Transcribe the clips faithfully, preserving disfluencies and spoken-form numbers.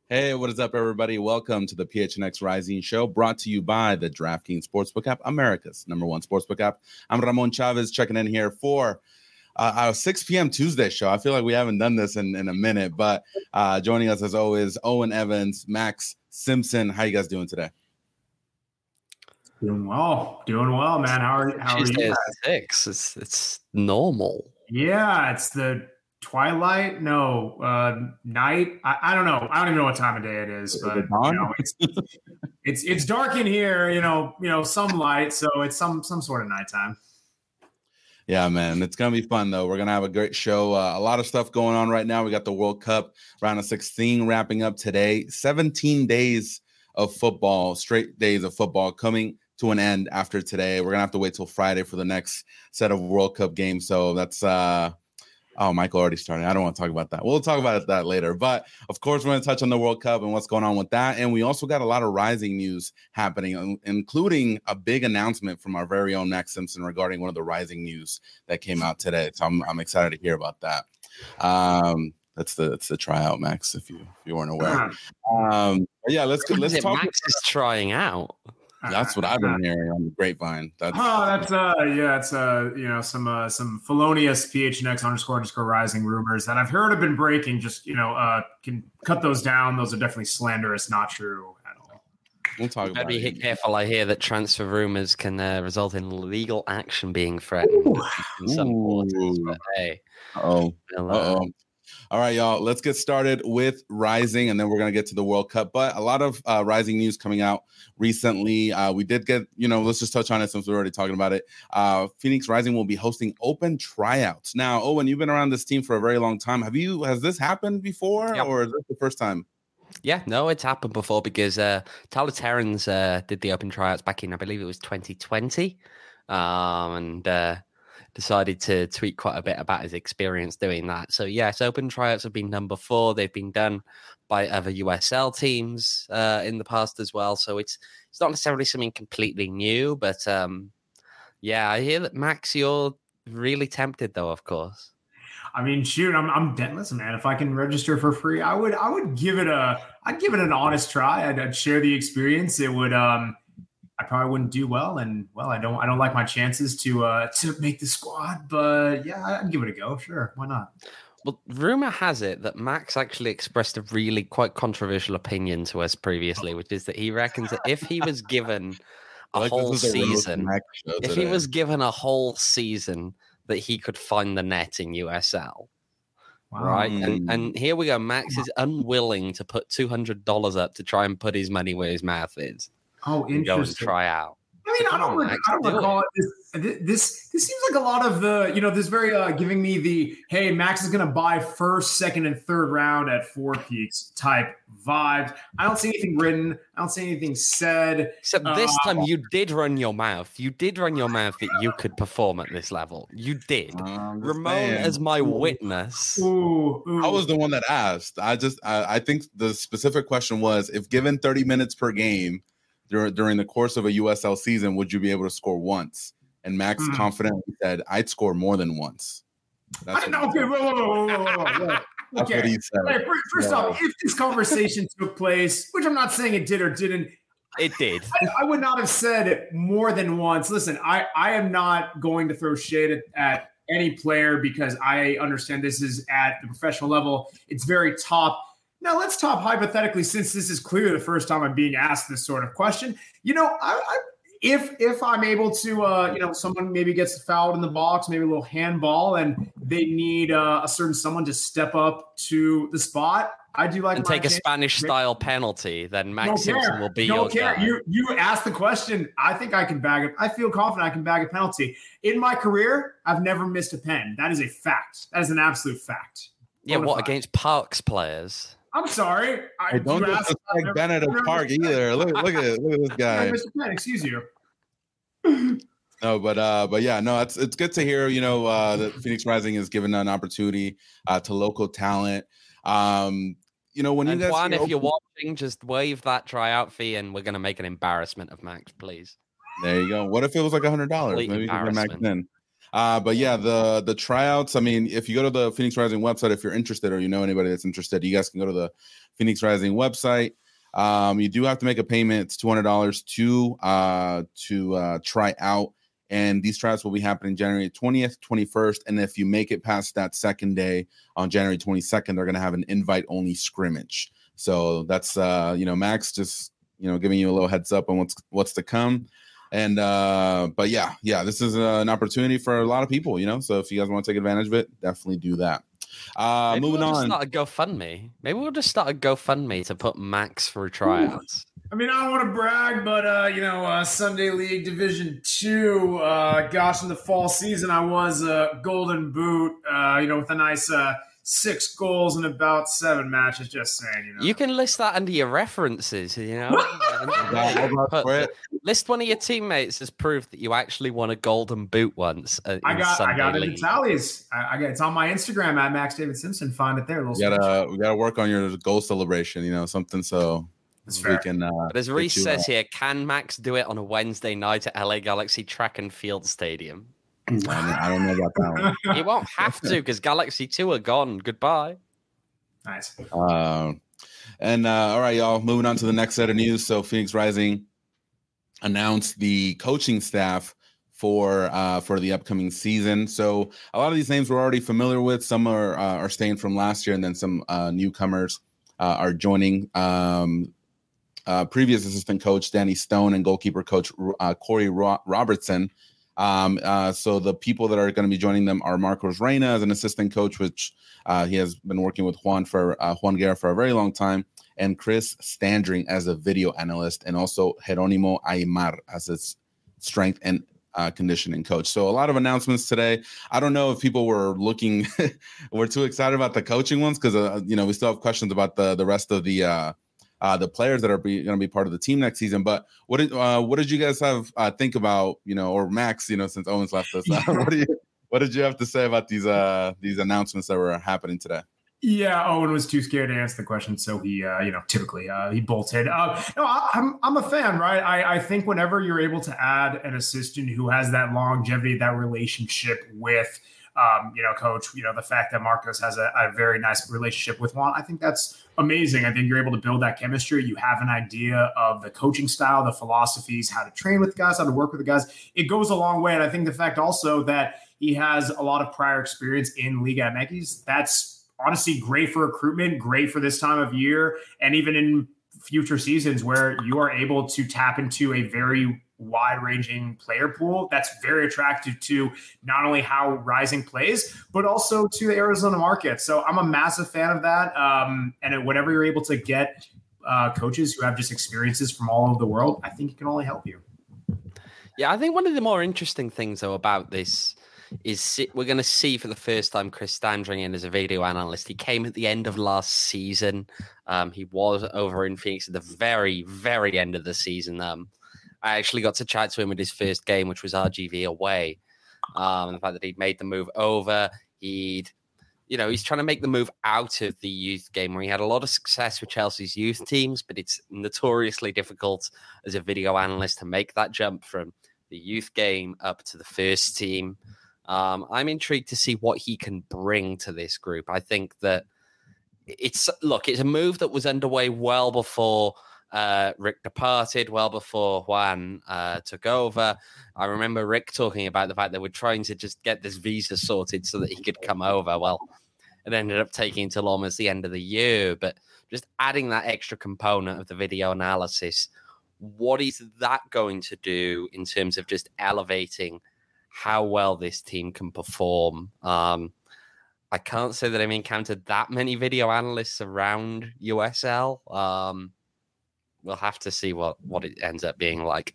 Hey, what is up, everybody? Welcome to the P H N X Rising Show, brought to you by the DraftKings Sportsbook app, America's number one sportsbook app. I'm Ramon Chavez, checking in here for uh, our six p.m. Tuesday show. I feel like we haven't done this in, in a minute, but uh, joining us as always, Owen Evans, Max Simpson. How you guys doing today? Doing well, doing well, man. How are how Tuesday are you? Is six. It's it's normal. Yeah, it's the twilight. No, uh, night. I, I don't know. I don't even know what time of day it is, but you know, it's it's it's dark in here. You know, you know, some light, so it's some some sort of nighttime. Yeah, man, it's gonna be fun though. We're gonna have a great show. Uh, a lot of stuff going on right now. We got the World Cup round of sixteen wrapping up today. seventeen days of football, straight days of football coming to an end after today. We're gonna have to wait till Friday for the next set of World Cup games. So that's uh oh, Michael already started. I don't want to talk about that. We'll talk about that later. But of course, we're going to touch on the World Cup and what's going on with that. And we also got a lot of Rising news happening, including a big announcement from our very own Max Simpson regarding one of the Rising news that came out today. So I'm I'm excited to hear about that. Um, that's the that's the tryout, Max. If you if you weren't aware. Um, yeah, let's go. Let's talk. Max is trying out. That's what I've been hearing on the grapevine. That's oh, that's uh, yeah, it's uh, you know, some uh, some felonious P H N X underscore underscore rising rumors that I've heard have been breaking. Just you know, uh, can cut those down. Those are definitely slanderous, not true at all. We'll talk about Be it. careful. I hear that transfer rumors can uh, result in legal action being threatened Ooh. in some quarters. But hey, oh, we'll, uh oh. All right, y'all, let's get started with Rising, and then we're going to get to the World Cup. But a lot of uh, Rising news coming out recently. Uh, we did get, you know, let's just touch on it since we're already talking about it. Uh, Phoenix Rising will be hosting open tryouts. Now, Owen, you've been around this team for a very long time. Have you, has this happened before, yep. or is this the first time? Yeah, no, it's happened before because uh, Tyler Terrans uh, did the open tryouts back in, I believe it was twenty twenty. Um, and, uh, decided to tweet quite a bit about his experience doing that. So yes, open tryouts have been done before. They've been done by other U S L teams uh, in the past as well. So it's it's not necessarily something completely new, but um, yeah, I hear that Max, you're really tempted though, of course. I mean, shoot, I'm I'm dead. Listen, man, if I can register for free, I would I would give it a I'd give it an honest try. I'd, I'd share the experience. It would um I probably wouldn't do well, and well, I don't. I don't like my chances to uh, to make the squad. But yeah, I'd give it a go. Sure, why not? Well, rumor has it that Max actually expressed a really quite controversial opinion to us previously, which is that he reckons that if he was given a like whole season, if he was given a whole season, that he could find the net in U S L. Wow. Right, and and here we go. Max is unwilling to put two hundred dollars up to try and put his money where his mouth is. Oh, interesting. Go and try out. I mean, I don't, on, I don't do recall it. This, this. This seems like a lot of the, you know, this very uh, giving me the, hey, Max is going to buy first, second, and third round at Four Peaks type vibes. I don't see anything written. I don't see anything said. Except uh, this time you did run your mouth. You did run your mouth that you could perform at this level. You did. Um, Ramon as my ooh, witness. Ooh, ooh. I was the one that asked. I just, I, I think the specific question was, if given thirty minutes per game, during the course of a U S L season, would you be able to score once? And Max mm. confidently said, I'd score more than once. That's I, okay, whoa, whoa, whoa, whoa, whoa, whoa. That's okay. what he said. Hey, first yeah. off, if this conversation took place, which I'm not saying it did or didn't, it did. I, I would not have said it more than once. Listen, I, I am not going to throw shade at, at any player because I understand this is at the professional level. It's very top. Now, let's talk hypothetically, since this is clearly the first time I'm being asked this sort of question. You know, I, I, if if I'm able to, uh, you know, someone maybe gets fouled in the box, maybe a little handball, and they need uh, a certain someone to step up to the spot, I do like and take a Spanish-style penalty. Then Max Don't Simpson care. will be Don't your care. guy. You you asked the question. I think I can bag it. I feel confident I can bag a penalty. In my career, I've never missed a pen. That is a fact. That is an absolute fact. Yeah, what against Parks players? I'm sorry. I hey, don't disrespect Bennett of Park either. Look, look at look at this guy. Mister Penn, excuse you. No, but uh, but yeah, no, it's it's good to hear. You know, uh, that Phoenix Rising is given an opportunity uh, to local talent. Um, you know, when and you guys, Juan, you know, if you're watching, just waive that tryout fee, and we're gonna make an embarrassment of Max, please. There you go. What if it was like a hundred dollars? Maybe you can Max in. Uh, but yeah, the the tryouts. I mean, if you go to the Phoenix Rising website, if you're interested or you know anybody that's interested, you guys can go to the Phoenix Rising website. Um, you do have to make a payment. It's two hundred dollars to uh, to uh, try out, and these tryouts will be happening January twentieth, twenty-first, and if you make it past that second day on January twenty-second, they're going to have an invite-only scrimmage. So that's uh, you know, Max just you know giving you a little heads up on what's what's to come. And uh, but yeah, yeah, this is uh, an opportunity for a lot of people, you know. So if you guys want to take advantage of it, definitely do that. Uh, Maybe moving we'll on. Just start a GoFundMe. Maybe we'll just start a GoFundMe to put Max for tryouts. I mean, I don't want to brag, but uh, you know, uh, Sunday League Division Two. Uh, gosh, in the fall season, I was a uh, Golden Boot. Uh, you know, with a nice. Uh, Six goals in about seven matches. Just saying, you know. You can list that under your references, you know. Put, list one of your teammates as proof that you actually won a Golden Boot once. Uh, I got, Sunday I got it League. in tallies. I, I got it's on my Instagram at Max David Simpson. Find it there. We gotta, we gotta work on your goal celebration. You know, something so That's we fair. can. Uh, but as Reese says here, can Max do it on a Wednesday night at L A Galaxy Track and Field Stadium? I don't, I don't know about that one. You won't have to because Galaxy two are gone. Goodbye. Nice. Uh, and uh, all right, y'all. Moving on to the next set of news. So Phoenix Rising announced the coaching staff for uh, for the upcoming season. So a lot of these names we're already familiar with. Some are uh, are staying from last year, and then some uh, newcomers uh, are joining. Um, uh, previous assistant coach Danny Stone and goalkeeper coach uh, Corey Ro- Robertson. Um, uh, so the people that are going to be joining them are Marcos Reyna as an assistant coach, which uh, he has been working with Juan for uh, Juan Guerra for a very long time, and Chris Standring as a video analyst, and also Jeronimo Aymar as its strength and uh, conditioning coach. So a lot of announcements today. I don't know if people were looking, were too excited about the coaching ones because uh, you know we still have questions about the the rest of the. Uh, Uh, the players that are going to be part of the team next season. But what did uh, what did you guys have uh, think about, you know, or Max, you know, since Owens left us? Uh, what do you what did you have to say about these uh, these announcements that were happening today? Yeah, Owen was too scared to answer the question, so he, uh, you know, typically uh, he bolted. Uh, no, I, I'm I'm a fan, right? I, I think whenever you're able to add an assistant who has that longevity, that relationship with. Um, you know, coach, you know, the fact that Marcos has a, a very nice relationship with Juan, I think that's amazing. I think you're able to build that chemistry. You have an idea of the coaching style, the philosophies, how to train with guys, how to work with the guys. It goes a long way. And I think the fact also that he has a lot of prior experience in Liga M X, that's honestly great for recruitment, great for this time of year, and even in future seasons where you are able to tap into a very wide-ranging player pool that's very attractive to not only how Rising plays, but also to the Arizona market. So I'm a massive fan of that. Um, and whenever you're able to get uh, coaches who have just experiences from all over the world, I think it can only help you. Yeah, I think one of the more interesting things, though, about this is we're going to see for the first time Chris Standring in as a video analyst. He came at the end of last season. Um, he was over in Phoenix at the very, very end of the season. Um, I actually got to chat to him at his first game, which was R G V away. Um, the fact that he'd made the move over, he'd, you know, he's trying to make the move out of the youth game where he had a lot of success with Chelsea's youth teams, but it's notoriously difficult as a video analyst to make that jump from the youth game up to the first team. Um, I'm intrigued to see what he can bring to this group. I think that it's, look, it's a move that was underway well before Uh, Rick departed, well before Juan uh, took over. I remember Rick talking about the fact that we're trying to just get this visa sorted so that he could come over. Well, it ended up taking until almost the end of the year, but just adding that extra component of the video analysis, what is that going to do in terms of just elevating how well this team can perform? Um, I can't say that I've encountered that many video analysts around U S L. Um, We'll have to see what, what it ends up being like.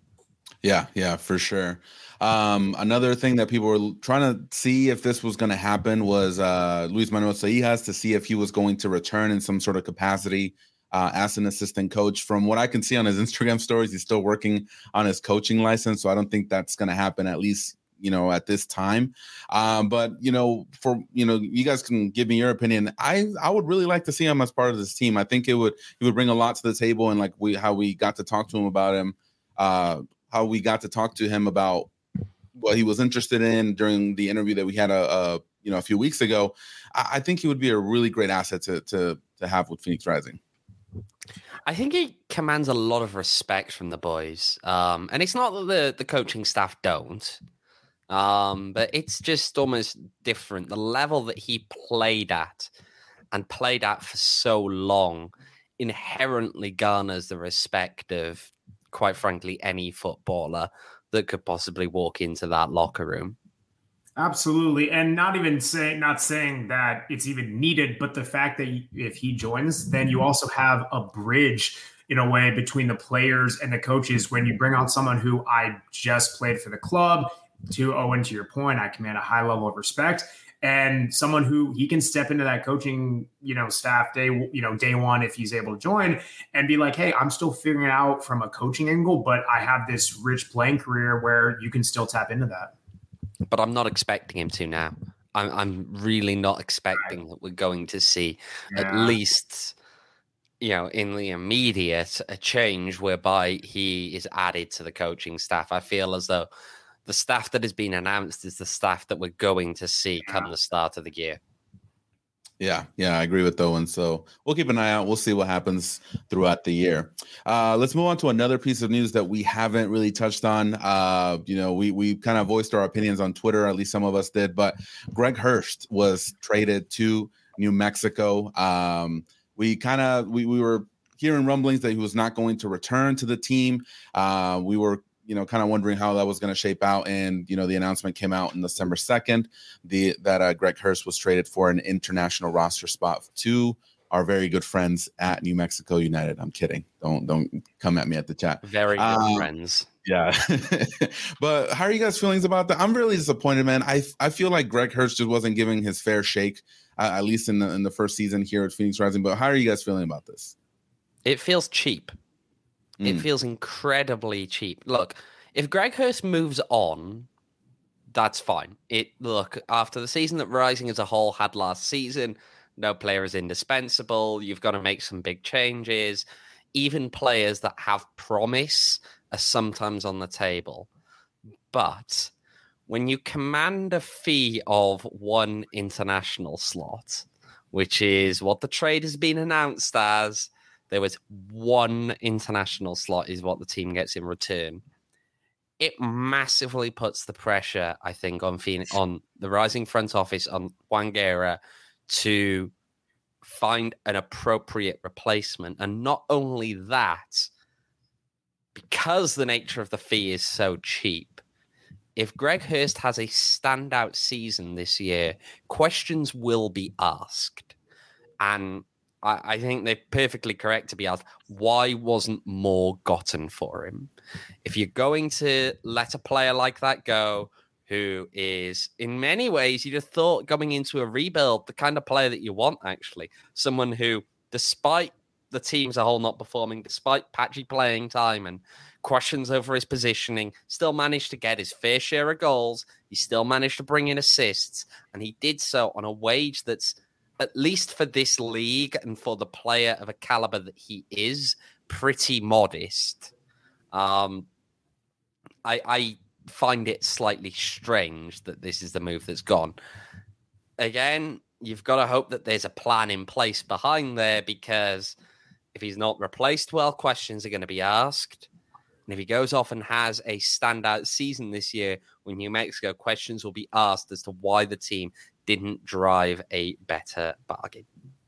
Yeah, yeah, for sure. Um, another thing that people were trying to see if this was going to happen was uh, Luis Manuel Seijas to see if he was going to return in some sort of capacity uh, as an assistant coach. From what I can see on his Instagram stories, he's still working on his coaching license, so I don't think that's going to happen, at least, you know, at this time. Um, but, you know, for, you know, you guys can give me your opinion. I, I would really like to see him as part of this team. I think it would, he would bring a lot to the table, and like we, how we got to talk to him about him, uh, how we got to talk to him about, what he was interested in during the interview that we had a, a you know a few weeks ago, I, I think he would be a really great asset to to to have with Phoenix Rising. I think he commands a lot of respect from the boys, um, and it's not that the the coaching staff don't. Um, but it's just almost different. The level that he played at and played at for so long inherently garners the respect of, quite frankly, any footballer that could possibly walk into that locker room. Absolutely. And not even saying, not saying that it's even needed, but the fact that if he joins, then you also have a bridge in a way between the players and the coaches. When you bring on someone who I just played for the club, to Owen, to your point, I command a high level of respect, and someone who he can step into that coaching, you know, staff day, you know, day one, if he's able to join and be like, hey, I'm still figuring it out from a coaching angle, but I have this rich playing career where you can still tap into that. But I'm not expecting him to now. I'm, I'm really not expecting right. that we're going to see yeah. at least, you know, in the immediate, a change whereby he is added to the coaching staff. I feel as though the staff that has been announced is the staff that we're going to see yeah. come the start of the year. Yeah, yeah, I agree with Owen. So we'll keep an eye out. We'll see what happens throughout the year. Uh, let's move on to another piece of news that we haven't really touched on. Uh, you know, we we kind of voiced our opinions on Twitter, at least some of us did. But Greg Hurst was traded to New Mexico. Um, we kind of we we were hearing rumblings that he was not going to return to the team. Uh, we were. you know, kind of wondering how that was going to shape out. And, you know, the announcement came out on December second, the, that uh, Greg Hurst was traded for an international roster spot to our very good friends at New Mexico United. I'm kidding. Don't, don't come at me at the chat. Very good um, friends. Yeah. But how are you guys' feelings about that? I'm really disappointed, man. I, I feel like Greg Hurst just wasn't giving his fair shake, uh, at least in the, in the first season here at Phoenix Rising. But how are you guys feeling about this? It feels cheap. It mm. feels incredibly cheap. Look, if Greg Hurst moves on, that's fine. It look, after the season that Rising as a whole had last season, no player is indispensable. You've got to make some big changes. Even players that have promise are sometimes on the table. But when you command a fee of one international slot, which is what the trade has been announced as, there was one international slot is what the team gets in return. It massively puts the pressure, I think, on Phoenix, on the Rising front office, on Juan Guerra, to find an appropriate replacement. And not only that, because the nature of the fee is so cheap, if Greg Hurst has a standout season this year, questions will be asked. And I think they're perfectly correct to be asked, why wasn't more gotten for him? If you're going to let a player like that go, who is in many ways, you'd have thought going into a rebuild, the kind of player that you want, actually, someone who, despite the team as a whole not performing, despite patchy playing time and questions over his positioning, still managed to get his fair share of goals. He still managed to bring in assists, and he did so on a wage that's, at least for this league and for the player of a caliber that he is, pretty modest. Um, I, I find it slightly strange that this is the move that's gone. Again, you've got to hope that there's a plan in place behind there, because if he's not replaced well, questions are going to be asked. And if he goes off and has a standout season this year with New Mexico, questions will be asked as to why the team didn't drive a better bargain.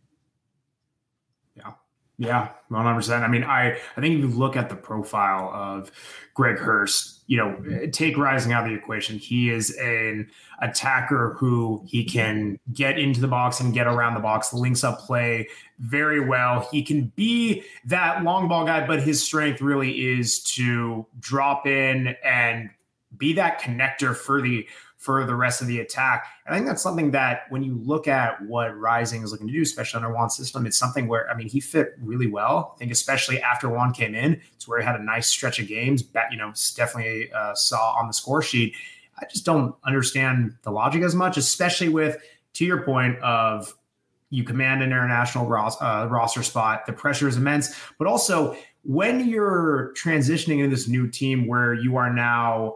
Yeah. Yeah, one hundred percent. I mean, I, I think if you look at the profile of Greg Hurst, you know, take Rising out of the equation. He is an attacker who he can get into the box and get around the box, links up play very well. He can be that long ball guy, but his strength really is to drop in and be that connector for the for the rest of the attack. And I think that's something that when you look at what Rising is looking to do, especially under Juan's system, it's something where, I mean, he fit really well. I think especially after Juan came in, it's where he had a nice stretch of games that, you know, definitely uh, saw on the score sheet. I just don't understand the logic as much, especially with, to your point of you command an international ros- uh, roster spot, the pressure is immense, but also when you're transitioning into this new team where you are now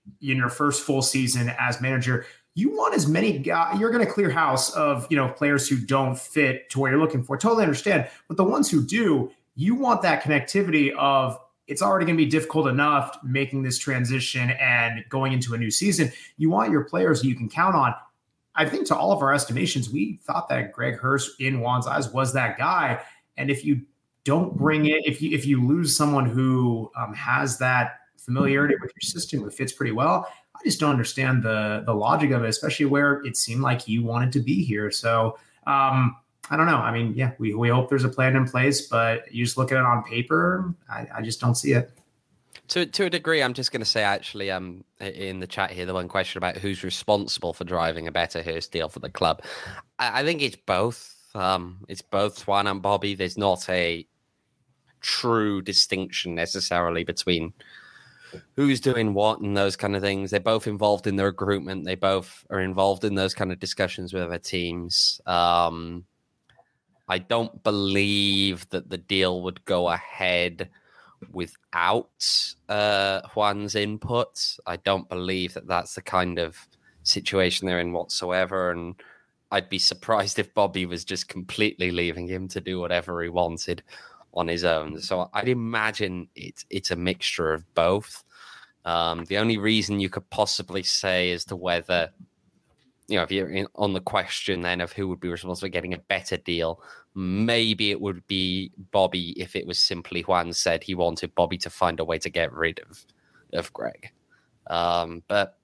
in your first full season as manager, you want as many guys, you're going to clear house of, you know, players who don't fit to what you're looking for. Totally understand. But the ones who do, you want that connectivity of, it's already going to be difficult enough making this transition and going into a new season. You want your players you can count on. I think to all of our estimations, we thought that Greg Hurst in Juan's eyes was that guy. And if you don't bring it, if you if you lose someone who um, has that familiarity with your system, who fits pretty well, I just don't understand the the logic of it, especially where it seemed like he wanted to be here. So um, I don't know. I mean, yeah, we, we hope there's a plan in place, but you just look at it on paper, I, I just don't see it. To to a degree, I'm just going to say, actually, um, in the chat here, the one question about who's responsible for driving a better Hurst deal for the club. I, I think it's both. Um, it's both Juan and Bobby. There's not a true distinction necessarily between who's doing what and those kind of things. They're both involved in the recruitment. They both are involved in those kind of discussions with other teams. Um, I don't believe that the deal would go ahead without uh, Juan's input. I don't believe that that's the kind of situation they're in whatsoever. And I'd be surprised if Bobby was just completely leaving him to do whatever he wanted on his own. So I'd imagine it's it's a mixture of both. Um, the only reason you could possibly say as to whether, you know, if you're in, on the question then of who would be responsible for getting a better deal, maybe it would be Bobby if it was simply Juan said he wanted Bobby to find a way to get rid of, of Greg. Um, but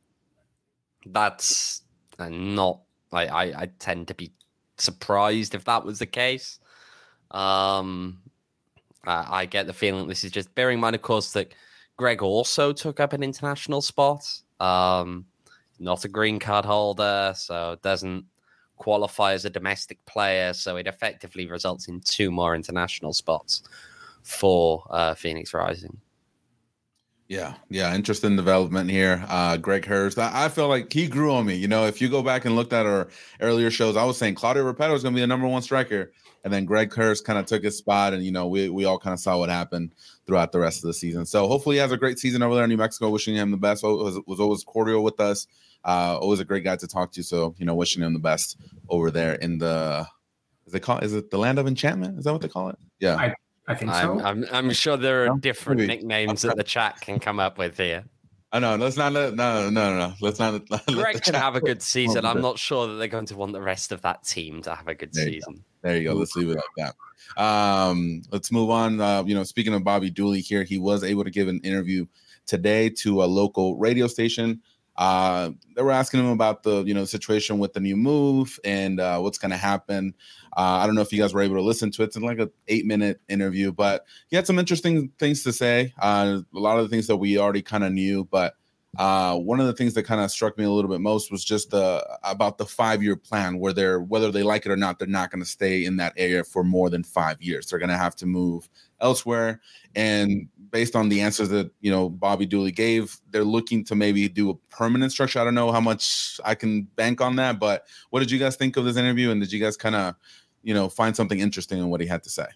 that's uh, not, I, I, I tend to be surprised if that was the case. Um, I, I get the feeling this is just, bearing in mind, of course, that Greg also took up an international spot. Um, not a green card holder, so doesn't qualify as a domestic player. So it effectively results in two more international spots for uh, Phoenix Rising. Yeah, yeah, interesting development here. Uh, Greg Hurst, I, I feel like he grew on me. You know, if you go back and looked at our earlier shows, I was saying Claudio Repetto is going to be the number one striker. And then Greg Hurst kind of took his spot, and, you know, we we all kind of saw what happened throughout the rest of the season. So hopefully he has a great season over there in New Mexico. Wishing him the best. Was, was always cordial with us. Uh, always a great guy to talk to. So, you know, wishing him the best over there in the, is it called, is it the Land of Enchantment? Is that what they call it? Yeah. I, I think so. I'm, I'm, I'm sure there are No? different Maybe. nicknames that the chat can come up with here. I know. Let's not let, no, no, no, no. Let's not. Let Greg the can chat- have a good season. I'm not sure that they're going to want the rest of that team to have a good There you season. There you go. Let's leave it like that. Um, let's move on. Uh, you know, speaking of Bobby Dooley here, he was able to give an interview today to a local radio station. Uh, they were asking him about the, you know, situation with the new move and uh, what's going to happen. Uh, I don't know if you guys were able to listen to it. It's like an eight minute interview, but he had some interesting things to say. Uh, a lot of the things that we already kind of knew, but uh, one of the things that kind of struck me a little bit most was just uh, about the five year plan where they're, whether they like it or not, they're not going to stay in that area for more than five years. They're going to have to move elsewhere. And based on the answers that, you know, Bobby Dooley gave, they're looking to maybe do a permanent structure. I don't know how much I can bank on that, but what did you guys think of this interview? And did you guys kind of, you know, find something interesting in what he had to say?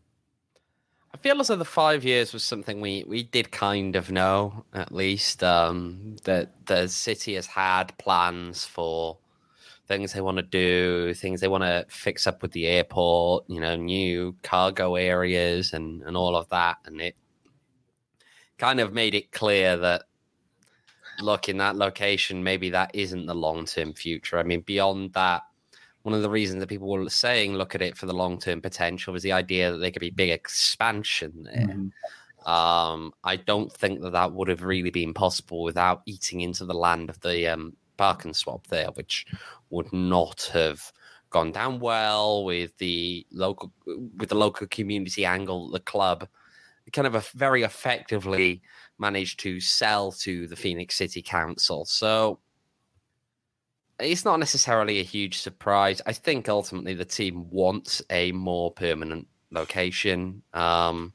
I feel as though the five years was something we, we did kind of know, at least, um, that the city has had plans for things they want to do, things they want to fix up with the airport, you know, new cargo areas and, and all of that. And it kind of made it clear that, look, in that location, maybe that isn't the long-term future. I mean, beyond that, one of the reasons that people were saying look at it for the long-term potential was the idea that there could be big expansion there. Mm-hmm. Um, I don't think that that would have really been possible without eating into the land of the um, park and swap there, which would not have gone down well with the local with the local community angle. The club kind of a very effectively managed to sell to the Phoenix City Council. So it's not necessarily a huge surprise. I think ultimately the team wants a more permanent location. Um,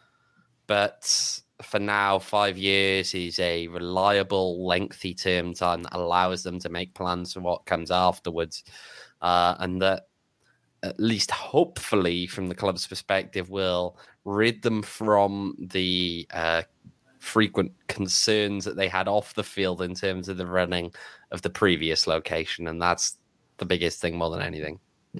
but for now, five years is a reliable, lengthy term time that allows them to make plans for what comes afterwards. Uh, and that, at least hopefully, from the club's perspective, will rid them from the uh, frequent concerns that they had off the field in terms of the running of the previous location. And that's the biggest thing more than anything.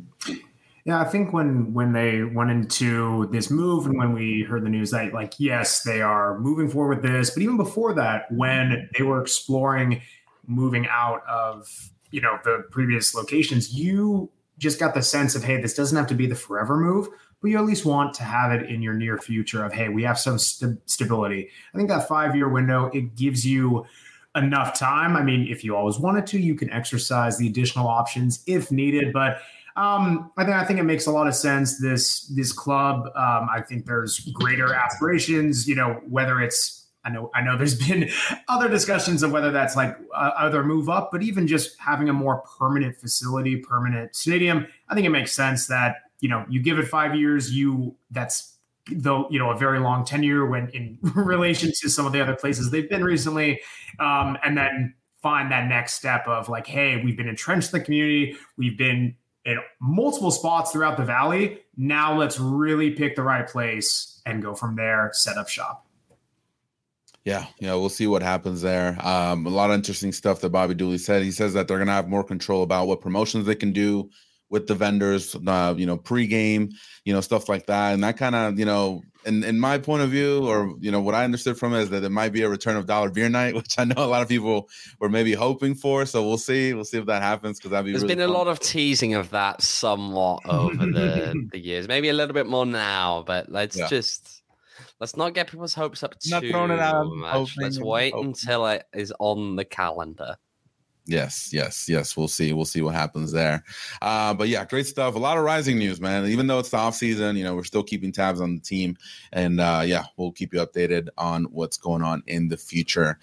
Yeah, I think when when they went into this move and when we heard the news that, like, yes, they are moving forward with this, but even before that, when they were exploring moving out of, you know, the previous locations, you just got the sense of, hey, this doesn't have to be the forever move, but you at least want to have it in your near future of, hey, we have some st- stability. I think that five-year window, it gives you enough time. I mean, if you always wanted to, you can exercise the additional options if needed, but Um, I think I think it makes a lot of sense. This this club, um, I think there's greater aspirations. You know, whether it's I know I know there's been other discussions of whether that's like uh, either move up, but even just having a more permanent facility, permanent stadium. I think it makes sense that, you know, you give it five years. You that's though you know a very long tenure when in relation to some of the other places they've been recently, um, and then find that next step of like, hey, we've been entrenched in the community. We've been in multiple spots throughout the valley. Now let's really pick the right place and go from there, set up shop. Yeah, yeah, we'll see what happens there. Um, a lot of interesting stuff that Bobby Dooley said. He says that they're going to have more control about what promotions they can do with the vendors, uh, you know, pregame, you know, stuff like that. And that kind of, you know, in, in my point of view, or, you know, what I understood from it is that there might be a return of Dollar Beer Night, which I know a lot of people were maybe hoping for. So we'll see. We'll see if that happens, because that'd be There's really been fun. a lot of teasing of that somewhat over the, the years. Maybe a little bit more now, but let's yeah. just... Let's not get people's hopes up too not throwing it out, much. Let's wait hoping. until it is on the calendar. Yes, yes, yes. We'll see. We'll see what happens there. Uh, but yeah, great stuff. A lot of Rising news, man. Even though it's the off season, you know, we're still keeping tabs on the team, and uh, yeah, we'll keep you updated on what's going on in the future.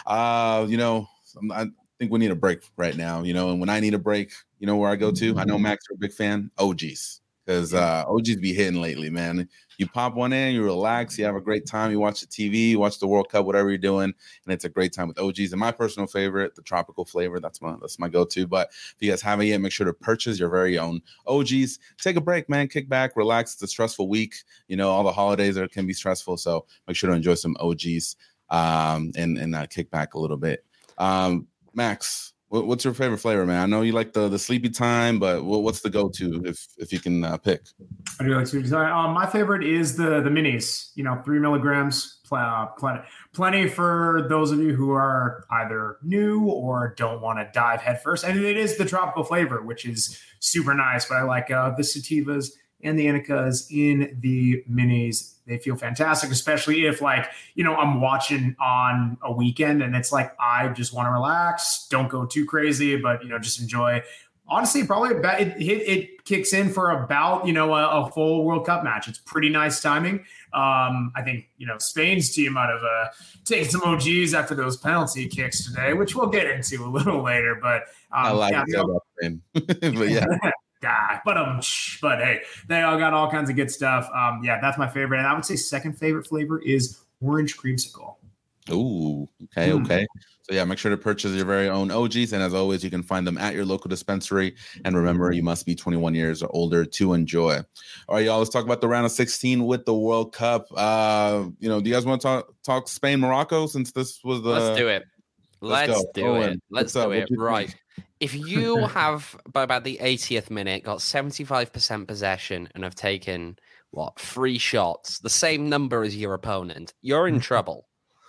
Uh, you know, I think we need a break right now. You know, and when I need a break, you know where I go to. I know Max, you're a big fan. O Gs. Because uh, O Gs be hitting lately, man. You pop one in, you relax, you have a great time, you watch the T V, you watch the World Cup, whatever you're doing, and it's a great time with O Gs. And my personal favorite, the tropical flavor, that's my that's my go-to. But if you guys haven't yet, make sure to purchase your very own O Gs. Take a break, man. Kick back, relax. It's a stressful week. You know, all the holidays are, can be stressful, so make sure to enjoy some O Gs um, and, and uh, kick back a little bit. Um, Max, what's your favorite flavor, man? I know you like the, the sleepy time, but what's the go-to if if you can uh, pick? I do like sleepy time. Um, my favorite is the the minis. You know, three milligrams, uh, plenty, plenty for those of you who are either new or don't want to dive headfirst. And it is the tropical flavor, which is super nice. But I like uh, the sativas and the indicas in the minis. They feel fantastic, especially if, like, you know, I'm watching on a weekend and it's like, I just want to relax. Don't go too crazy, but, you know, just enjoy. Honestly, probably about, it, it, it kicks in for about, you know, a, a full World Cup match. It's pretty nice timing. Um, I think, you know, Spain's team might have uh, taken some O Gs after those penalty kicks today, which we'll get into a little later. But um, I like yeah, it about Spain. But yeah. God, but um, but hey, they all got all kinds of good stuff. Um, yeah, that's my favorite, and I would say second favorite flavor is orange creamsicle. Ooh, okay, mm. okay. So yeah, make sure to purchase your very own O Gs, and as always, you can find them at your local dispensary. And remember, you must be twenty-one years or older to enjoy. All right, y'all. Let's talk about the round of sixteen with the World Cup. Uh, you know, do you guys want to talk talk Spain Morocco since this was the? Let's do it. Let's, Let's do Owen, it. Let's do it. Right. Think? If you have, by about the eightieth minute, got seventy-five percent possession and have taken, what, three shots, the same number as your opponent, you're in trouble.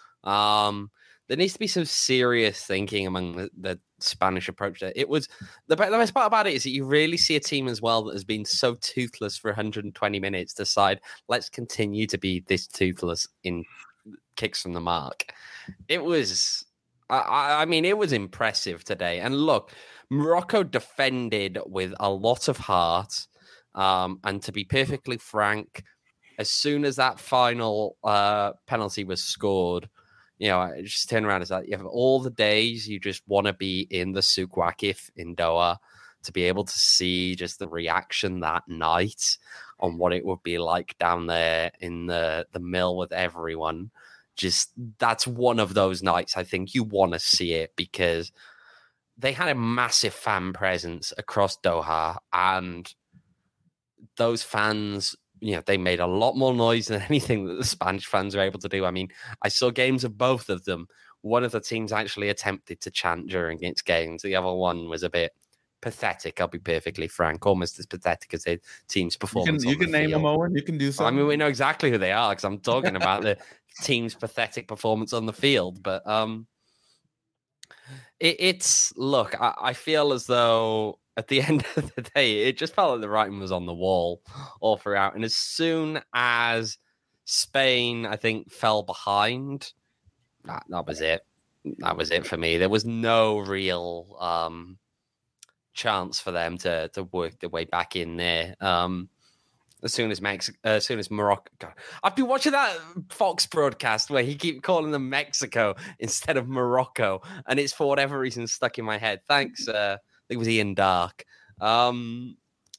Um, there needs to be some serious thinking among the, the Spanish approach there. It was, the, the best part about it is that you really see a team as well that has been so toothless for one hundred twenty minutes decide, let's continue to be this toothless in kicks from the mark. It was... I, I mean, it was impressive today. And look, Morocco defended with a lot of heart. Um, and to be perfectly frank, as soon as that final uh, penalty was scored, you know, I just turned around and said, you have all the days you just want to be in the Souk Waqif in Doha to be able to see just the reaction that night on what it would be like down there in the, the mill with everyone. Just that's one of those nights I think you want to see it because they had a massive fan presence across Doha and those fans you know, they made a lot more noise than anything that the Spanish fans were able to do. I mean, I saw games of both of them. One of the teams actually attempted to chant during its games. The other one was a bit pathetic, I'll be perfectly frank, almost as pathetic as the team's performance. You can, you on can the name field. them, Owen. You can do something. I mean, we know exactly who they are because I'm talking about the team's pathetic performance on the field. But um, it, it's, look, I, I feel as though at the end of the day, it just felt like the writing was on the wall all throughout. And as soon as Spain, I think, fell behind, that, that was it. That was it for me. There was no real um, chance for them to to work their way back in there. Um, as soon as Mex- uh, as soon as Morocco, God, I've been watching that Fox broadcast where he keep calling them Mexico instead of Morocco, and it's for whatever reason stuck in my head. Thanks, uh, I think it was Ian Dark. Um,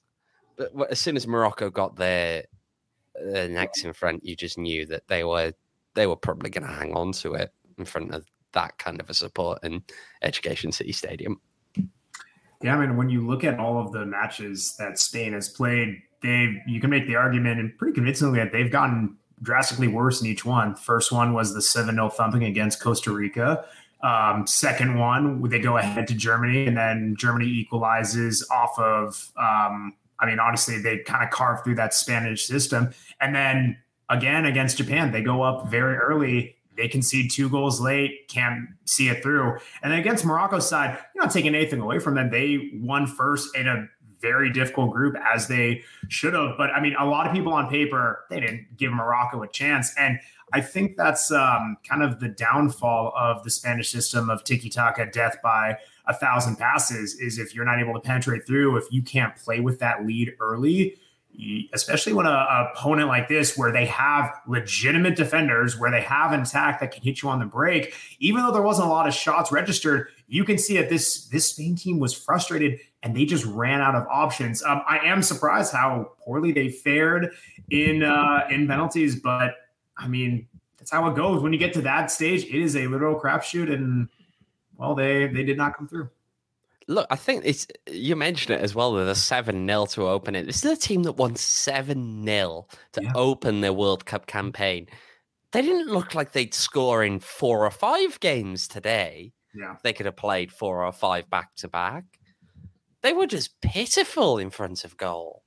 but as soon as Morocco got their uh, necks in front, you just knew that they were they were probably going to hang on to it in front of that kind of a support in Education City Stadium. Yeah, I mean, when you look at all of the matches that Spain has played, they you can make the argument, and pretty convincingly, that they've gotten drastically worse in each one. First one was the seven nil thumping against Costa Rica. Um, second one, they go ahead to Germany, and then Germany equalizes off of, um, I mean, honestly, they kind of carved through that Spanish system. And then again, against Japan, they go up very early. They concede two goals late, can't see it through. And then against Morocco's side, you're not taking anything away from them. They won first in a very difficult group, as they should have. But, I mean, a lot of people on paper, they didn't give Morocco a chance. And I think that's um, kind of the downfall of the Spanish system of tiki-taka, death by a thousand passes, is if you're not able to penetrate through, if you can't play with that lead early, especially when a, a opponent like this, where they have legitimate defenders, where they have an attack that can hit you on the break, even though there wasn't a lot of shots registered, you can see that this this Spain team was frustrated and they just ran out of options. Um, I am surprised how poorly they fared in uh, in penalties, but I mean, that's how it goes. When you get to that stage, it is a literal crapshoot, and well, they they did not come through. Look, I think it's you mentioned it as well. With a seven nil to open it. This is a team that won seven nil to yeah. open their World Cup campaign. They didn't look like they'd score in four or five games today. Yeah. They could have played four or five back to back. They were just pitiful in front of goal.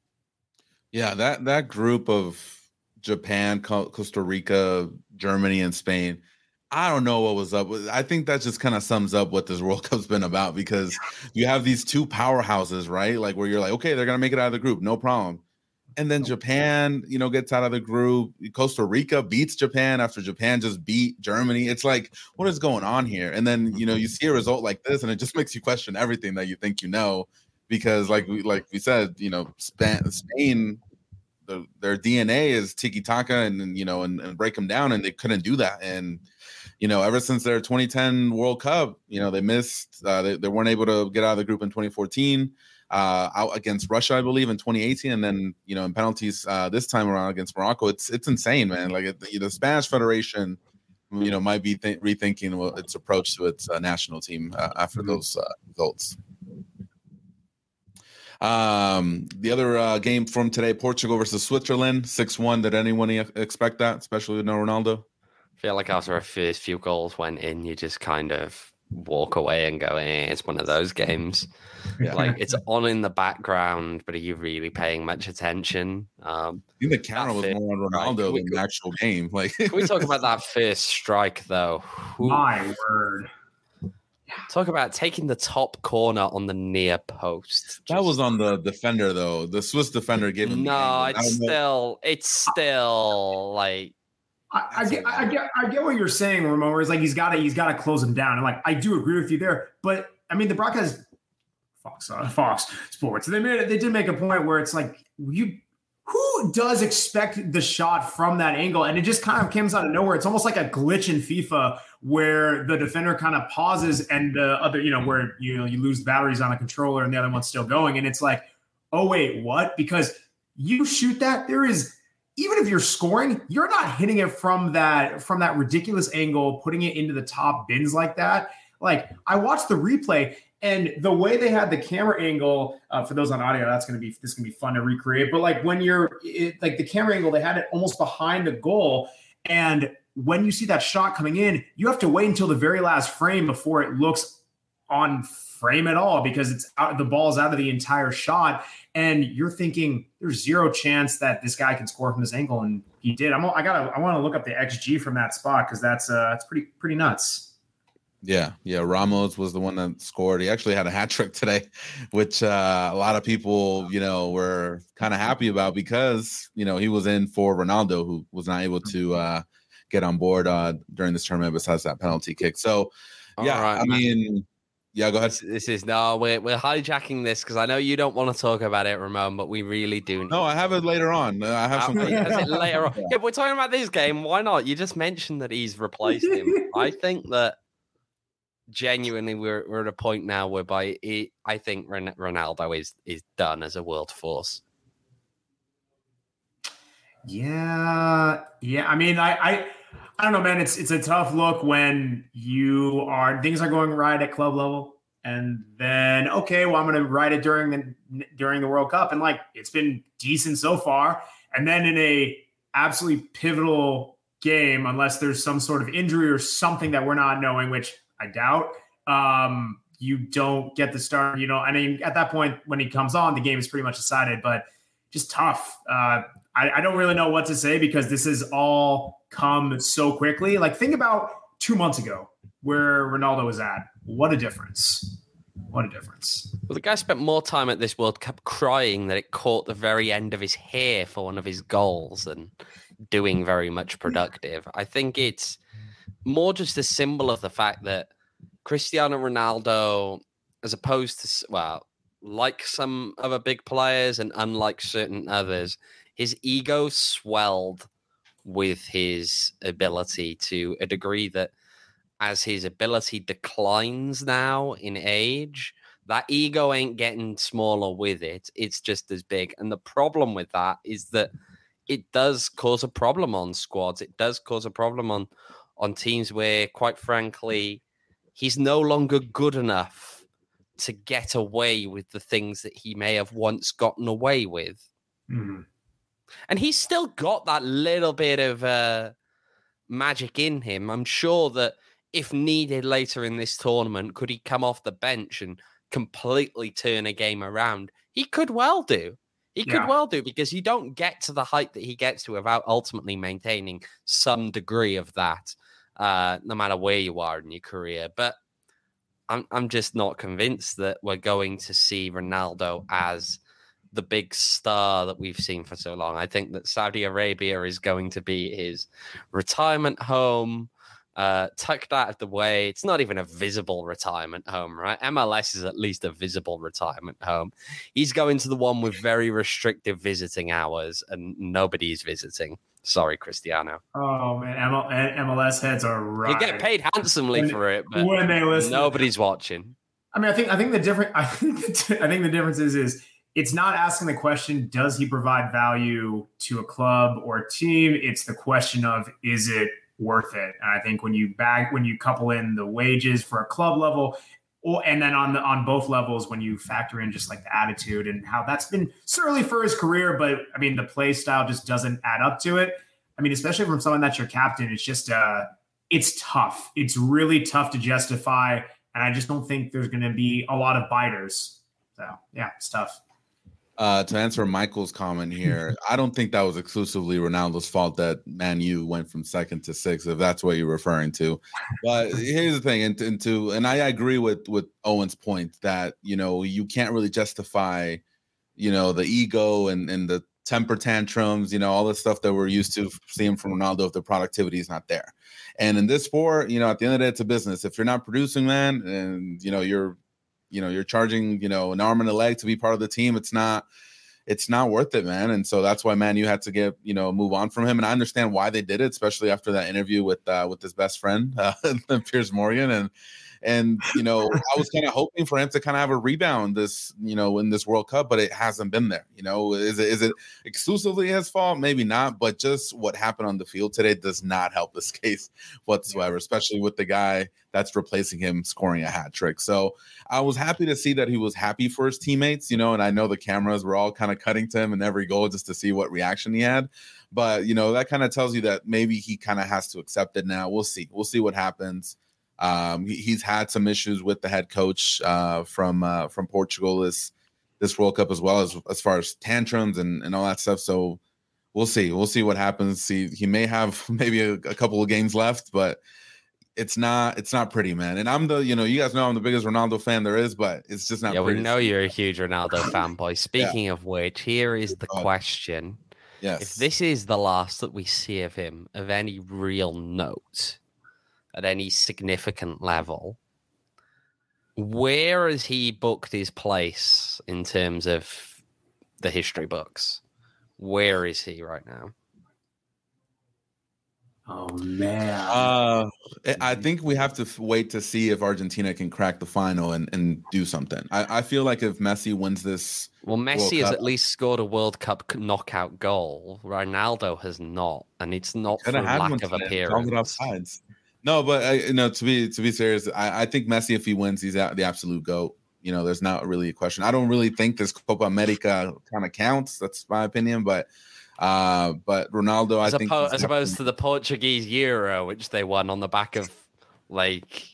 Yeah, that that group of Japan, Costa Rica, Germany, and Spain, I don't know what was up. I think that just kind of sums up what this World Cup's been about, because you have these two powerhouses, right? Like, where you're like, okay, they're going to make it out of the group, no problem. And then Japan, you know, gets out of the group. Costa Rica beats Japan after Japan just beat Germany. It's like, what is going on here? And then, you know, you see a result like this, and it just makes you question everything that you think you know, because like we, like we said, you know, Spain, Spain the, their D N A is tiki-taka and, you know, and, and break them down, and they couldn't do that. And, you know, ever since their twenty ten World Cup, you know, they missed, uh, they, they weren't able to get out of the group in twenty fourteen, uh, out against Russia, I believe, in twenty eighteen. And then, you know, in penalties uh, this time around against Morocco. It's it's insane, man. Like, it, the Spanish Federation, you know, might be th- rethinking its approach to its uh, national team uh, after mm-hmm. those uh, results. Um, the other uh, game from today, Portugal versus Switzerland, six one. Did anyone expect that, especially with no Ronaldo? I feel like after a first few goals went in, you just kind of walk away and go, eh, it's one of those games. Yeah. Like, it's on in the background, but are you really paying much attention? Um, I think the camera was more on Ronaldo than the actual game. Like, can we talk about that first strike, though? Ooh. My word. Talk about taking the top corner on the near post. Just... That was on the defender, though. The Swiss defender gave him. No, it's still, it's still like. I, I get, I get, I get what you're saying, Ramon. Where it's like he's got to, he's got to close him down, and like I do agree with you there. But I mean, the broadcast, Fox, uh, Fox Sports, they made it. They did make a point where it's like, you, who does expect the shot from that angle, and it just kind of comes out of nowhere. It's almost like a glitch in FIFA where the defender kind of pauses, and the other, you know, where you know you lose batteries on the controller, and the other one's still going, and it's like, oh wait, what? Because you shoot that, there is. Even if you're scoring, you're not hitting it from that from that ridiculous angle, putting it into the top bins like that. Like, I watched the replay, And the way they had the camera angle, uh, for those on audio, that's going to be, this is going to be fun to recreate. But like when you're it, like the camera angle, they had it almost behind the goal. And when you see that shot coming in, you have to wait until the very last frame before it looks on frame at all, because it's out, the ball's out of the entire shot. And you're thinking there's zero chance that this guy can score from this angle. And he did. I'm, I gotta, I want to look up the X G from that spot, because that's, uh, that's pretty, pretty nuts. Yeah, yeah. Ramos was the one that scored. He actually had a hat trick today, which uh, a lot of people, you know, were kind of happy about, because, you know, he was in for Ronaldo, who was not able to uh, get on board uh, during this tournament besides that penalty kick. So, yeah, right, I mean, yeah, go ahead. This, this is no, we're we're hijacking this because I know you don't want to talk about it, Ramon, but we really do. No, I have it later on. I have some. it later on. Yeah. yeah, we're talking about this game. Why not? You just mentioned that he's replaced him. I think that. Genuinely, we're we're at a point now whereby it, I think Ronaldo is is done as a world force. Yeah, yeah. I mean, I, I I don't know, man. It's it's a tough look when you are things are going right at club level, and then okay, well, I'm going to ride it during the during the World Cup, and like it's been decent so far, and then in a absolutely pivotal game, unless there's some sort of injury or something that we're not knowing, which I doubt, um, you don't get the start. You know, I mean, at that point, when he comes on, the game is pretty much decided, but just tough. Uh, I, I don't really know what to say, because this has all come so quickly. Like, think about two months ago where Ronaldo was at. What a difference. What a difference. Well, the guy spent more time at this World Cup crying that it caught the very end of his hair for one of his goals than doing very much productive. I think it's more just a symbol of the fact that Cristiano Ronaldo, as opposed to, well, like some other big players and unlike certain others, his ego swelled with his ability to a degree that as his ability declines now in age, that ego ain't getting smaller with it. It's just as big. And the problem with that is that it does cause a problem on squads. It does cause a problem on on teams where, quite frankly, he's no longer good enough to get away with the things that he may have once gotten away with. Mm-hmm. And he's still got that little bit of uh, magic in him. I'm sure that if needed later in this tournament, could he come off the bench and completely turn a game around? He could well do. He could yeah. well do, because you don't get to the height that he gets to without ultimately maintaining some degree of that. Uh, no matter where you are in your career. But I'm I'm just not convinced that we're going to see Ronaldo as the big star that we've seen for so long. I think that Saudi Arabia is going to be his retirement home, uh, tucked out of the way. It's not even a visible retirement home, right? M L S is at least a visible retirement home. He's going to the one with very restrictive visiting hours, and nobody's visiting. Sorry, Cristiano. Oh, man. M L S heads are right. You get paid handsomely when, for it, but when they listen, nobody's watching. I mean, I think I think the different I think the, I think the difference is is it's not asking the question, does he provide value to a club or a team? It's the question of, is it worth it? And I think when you bag when you couple in the wages for a club level, or and then on the on both levels, when you factor in just like the attitude and how that's been certainly for his career, but I mean the play style just doesn't add up to it. I mean, especially from someone that's your captain, it's just uh it's tough. It's really tough to justify, and I just don't think there's going to be a lot of biters. So yeah, it's tough. Uh, to answer Michael's comment here, I don't think that was exclusively Ronaldo's fault that Man U went from second to sixth, if that's what you're referring to. But here's the thing, and, and to and I agree with with Owen's point that, you know, you can't really justify, you know, the ego and and the temper tantrums, you know, all the stuff that we're used to seeing from Ronaldo if the productivity is not there. And in this sport, you know, at the end of the day, it's a business. If you're not producing, man, and you know you're you know, you're charging, you know, an arm and a leg to be part of the team. It's not, it's not worth it, man. And so that's why, man, you had to get, you know, move on from him. And I understand why they did it, especially after that interview with, uh, with his best friend, uh, Piers Morgan. And And, you know, I was kind of hoping for him to kind of have a rebound this, you know, in this World Cup, but it hasn't been there. You know, is it, is it exclusively his fault? Maybe not, but just what happened on the field today does not help this case whatsoever, especially with the guy that's replacing him scoring a hat trick. So I was happy to see that he was happy for his teammates, you know, and I know the cameras were all kind of cutting to him in every goal just to see what reaction he had. But, you know, that kind of tells you that maybe he kind of has to accept it now. We'll see. We'll see what happens. Um, he, he's had some issues with the head coach uh, from uh, from Portugal this this World Cup as well as as far as tantrums and, and all that stuff. So we'll see. We'll see what happens. See, he may have maybe a, a couple of games left, but it's not it's not pretty, man. And I'm the you know you guys know I'm the biggest Ronaldo fan there is, but it's just not. Yeah, pretty. we know you're a huge Ronaldo fanboy. Speaking yeah. of which, here is the oh. question. Yes. If this is the last that we see of him of any real note at any significant level, where has he booked his place in terms of the history books? Where is he right now? Oh, man. Uh, I think we have to wait to see if Argentina can crack the final and, and do something. I, I feel like if Messi wins this... Well, Messi has at least scored a World Cup knockout goal. Ronaldo has not, and it's not for lack of appearance. No, but I, you know, to be to be serious, I, I think Messi, if he wins, he's out the absolute GOAT. You know, there's not really a question. I don't really think this Copa America kind of counts. That's my opinion, but... Uh, but Ronaldo, I as think, oppo- as opposed to the Portuguese Euro, which they won on the back of like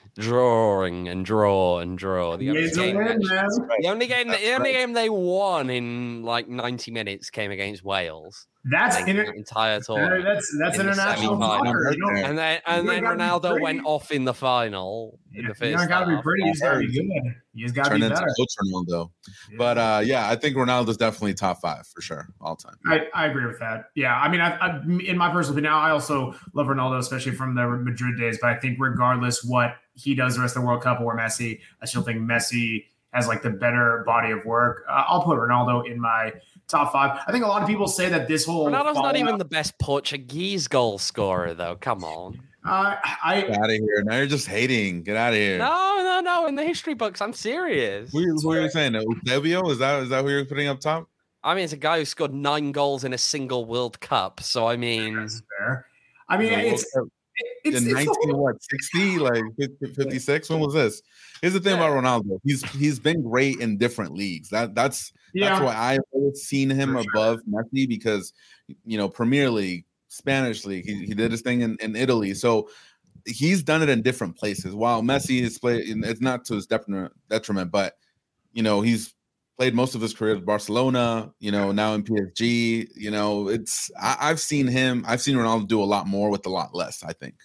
drawing and draw and draw. The only, game, win, the only game, the only right. game they won in like ninety minutes came against Wales. That's inter- the entire tournament. That's that's in international soccer. And then and then Ronaldo went off in the final. Yeah, in the first you don't gotta half. be pretty. You just gotta be good. You just gotta Turn be into better. Coach Ronaldo. Yeah. But uh, yeah, I think Ronaldo's definitely top five for sure, all time. I, I agree with that. Yeah, I mean, I, I, in my personal opinion, I also love Ronaldo, especially from the Madrid days. But I think regardless what he does the rest of the World Cup or Messi, I still think Messi has like the better body of work. Uh, I'll put Ronaldo in my top five. I think a lot of people say that this whole Ronaldo's not even the best Portuguese goal scorer, though. Come on. Uh, I Get out of here. Now you're just hating. Get out of here. No, no, no. In the history books, I'm serious. Who, who are you saying? Eusebio? Is that is that who you're putting up top? I mean, it's a guy who scored nine goals in a single World Cup. So I mean, that's fair. I mean, it's, it's, it's in nineteen it's what sixty like fifty-six. When was this? Here's the thing yeah. about Ronaldo. He's he's been great in different leagues. That that's yeah. that's why I've always seen him For above sure. Messi because you know Premier League, Spanish league. He he did his thing in, in Italy. So he's done it in different places. While Messi has played, it's not to his detriment, but you know he's played most of his career at Barcelona. You know now in P S G. You know it's I, I've seen him. I've seen Ronaldo do a lot more with a lot less. I think.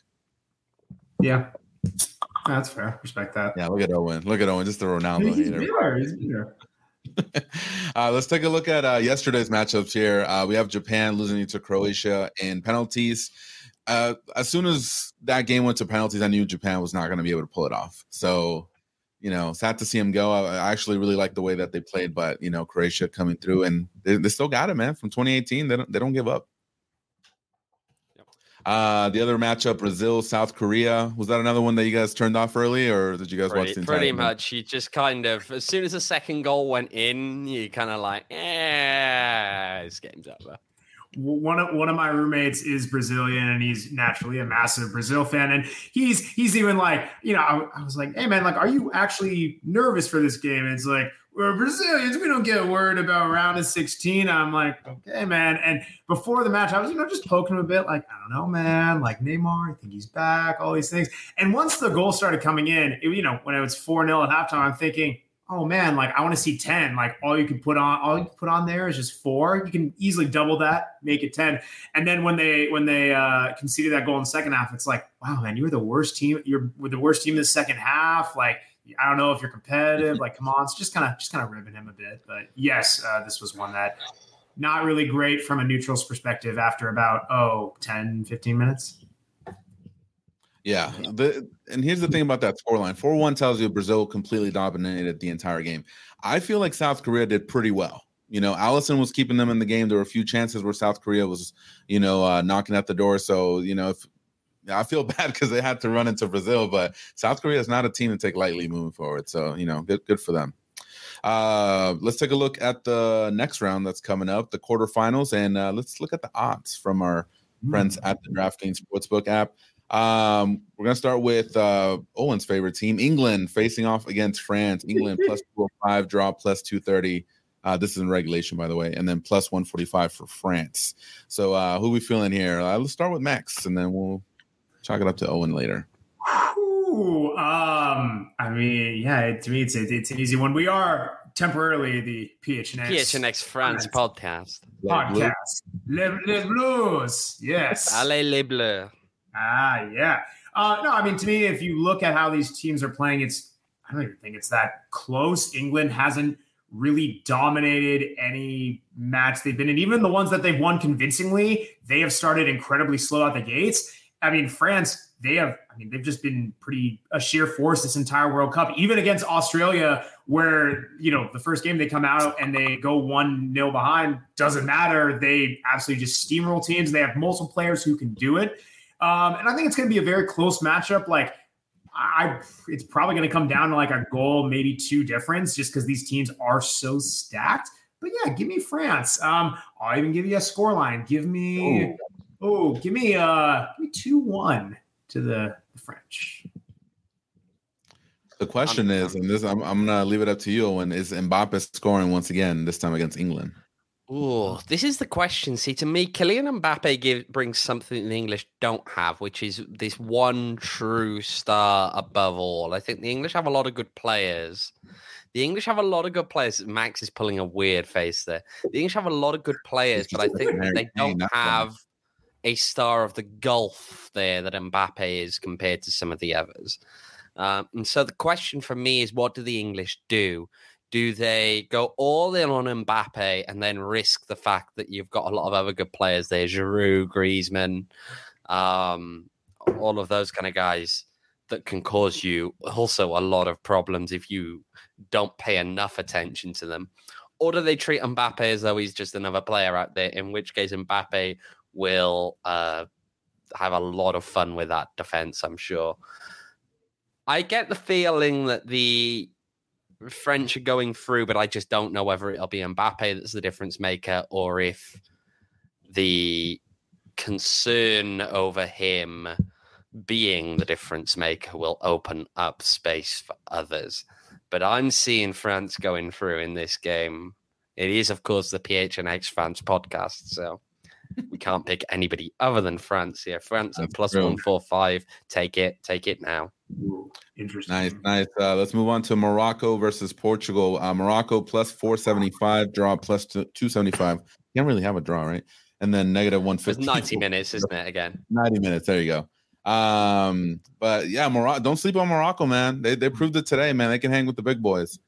Yeah. That's fair. Respect that. Yeah, look at Owen. Look at Owen. Just the Ronaldo he's hater. Bitter. He's bitter. uh, let's take a look at uh, yesterday's matchups here. Uh, we have Japan losing to Croatia in penalties. Uh, as soon as that game went to penalties, I knew Japan was not going to be able to pull it off. So, you know, sad to see him go. I, I actually really like the way that they played, but, you know, Croatia coming through, and they, they still got it, man. From twenty eighteen, they don't, they don't give up. Uh, the other matchup, Brazil, South Korea. Was that another one that you guys turned off early, or did you guys pretty, watch the entire Pretty game? much. You just kind of, as soon as the second goal went in, you kind of like, eh, this game's over. One of one of my roommates is Brazilian, and he's naturally a massive Brazil fan. And he's he's even like, you know, I, I was like, hey man, like, are you actually nervous for this game? And it's like, we're Brazilians, we don't get worried about round of sixteen. I'm like, okay, man. And before the match, I was, you know, just poking him a bit, like, I don't know, man, like Neymar, I think he's back, all these things. And once the goal started coming in, it, you know, when it was four nil at halftime, I'm thinking, oh man, like I want to see ten. Like all you can put on, all you can put on there is just four. You can easily double that, make it ten. And then when they when they uh, conceded that goal in the second half, it's like, wow, man, you were the worst team. You're with the worst team in the second half. Like I don't know if you're competitive. Like come on, it's just kind of just kind of ribbing him a bit. But yes, uh, this was one that not really great from a neutral's perspective after about oh ten, fifteen minutes. Yeah. The, and here's the thing about that scoreline. four one tells you Brazil completely dominated the entire game. I feel like South Korea did pretty well. You know, Allison was keeping them in the game. There were a few chances where South Korea was, you know, uh, knocking at the door. So, you know, if I feel bad because they had to run into Brazil, but South Korea is not a team to take lightly moving forward. So, you know, good, good for them. Uh, let's take a look at the next round that's coming up, the quarterfinals, and uh, let's look at the odds from our mm. friends at the DraftKings Sportsbook app. Um, we're going to start with uh, Owen's favorite team, England, facing off against France. England plus two oh five, draw plus two thirty. Uh, this is in regulation, by the way, and then plus one forty-five for France. So uh, who are we feeling here? Uh, let's start with Max, and then we'll chalk it up to Owen later. Ooh, um, I mean, yeah, to me, it's a, it's an easy one. We are temporarily the P H N X P H N X France podcast. Podcast. Les, les Blues. Yes. Allez les Bleus. Ah, yeah. Uh, no, I mean, to me, if you look at how these teams are playing, it's I don't even think it's that close. England hasn't really dominated any match they've been in. Even the ones that they've won convincingly, they have started incredibly slow out the gates. I mean, France, they have, I mean, they've just been pretty a sheer force this entire World Cup, even against Australia, where, you know, the first game they come out and they go one nil behind, doesn't matter. They absolutely just steamroll teams. They have multiple players who can do it. Um, and I think it's going to be a very close matchup. Like, I, it's probably going to come down to like a goal, maybe two difference, just because these teams are so stacked. But yeah, give me France. Um, I'll even give you a scoreline. Give me, oh, give me uh, give me two one to the, the French. The question I'm, is, and this I'm, I'm gonna leave it up to you, Owen, is Mbappe scoring once again, this time against England? Oh, this is the question. See, to me, Kylian Mbappe give, brings something the English don't have, which is this one true star above all. I think the English have a lot of good players. The English have a lot of good players. Max is pulling a weird face there. The English have a lot of good players, but I think they don't have a star of the Gulf there that Mbappe is compared to some of the others. Um, and so the question for me is, what do the English do? Do they go all in on Mbappe and then risk the fact that you've got a lot of other good players there, Giroud, Griezmann, um, all of those kind of guys that can cause you also a lot of problems if you don't pay enough attention to them? Or do they treat Mbappe as though he's just another player out there, in which case Mbappe will uh, have a lot of fun with that defense, I'm sure. I get the feeling that the French are going through, but I just don't know whether it'll be Mbappe that's the difference maker or if the concern over him being the difference maker will open up space for others. But I'm seeing France going through in this game. It is, of course, the P H N X France podcast, so we can't pick anybody other than France here. France at plus one four five. Take it. Take it now. Ooh, interesting. Nice, nice. Uh, let's move on to Morocco versus Portugal. Uh, Morocco plus four seventy-five, draw plus two seventy-five. Can't really have a draw, right? And then negative one fifty. It's ninety minutes, isn't it, again? ninety minutes. There you go. Um, but yeah, Morocco. Don't sleep on Morocco, man. They they proved it today, man. They can hang with the big boys.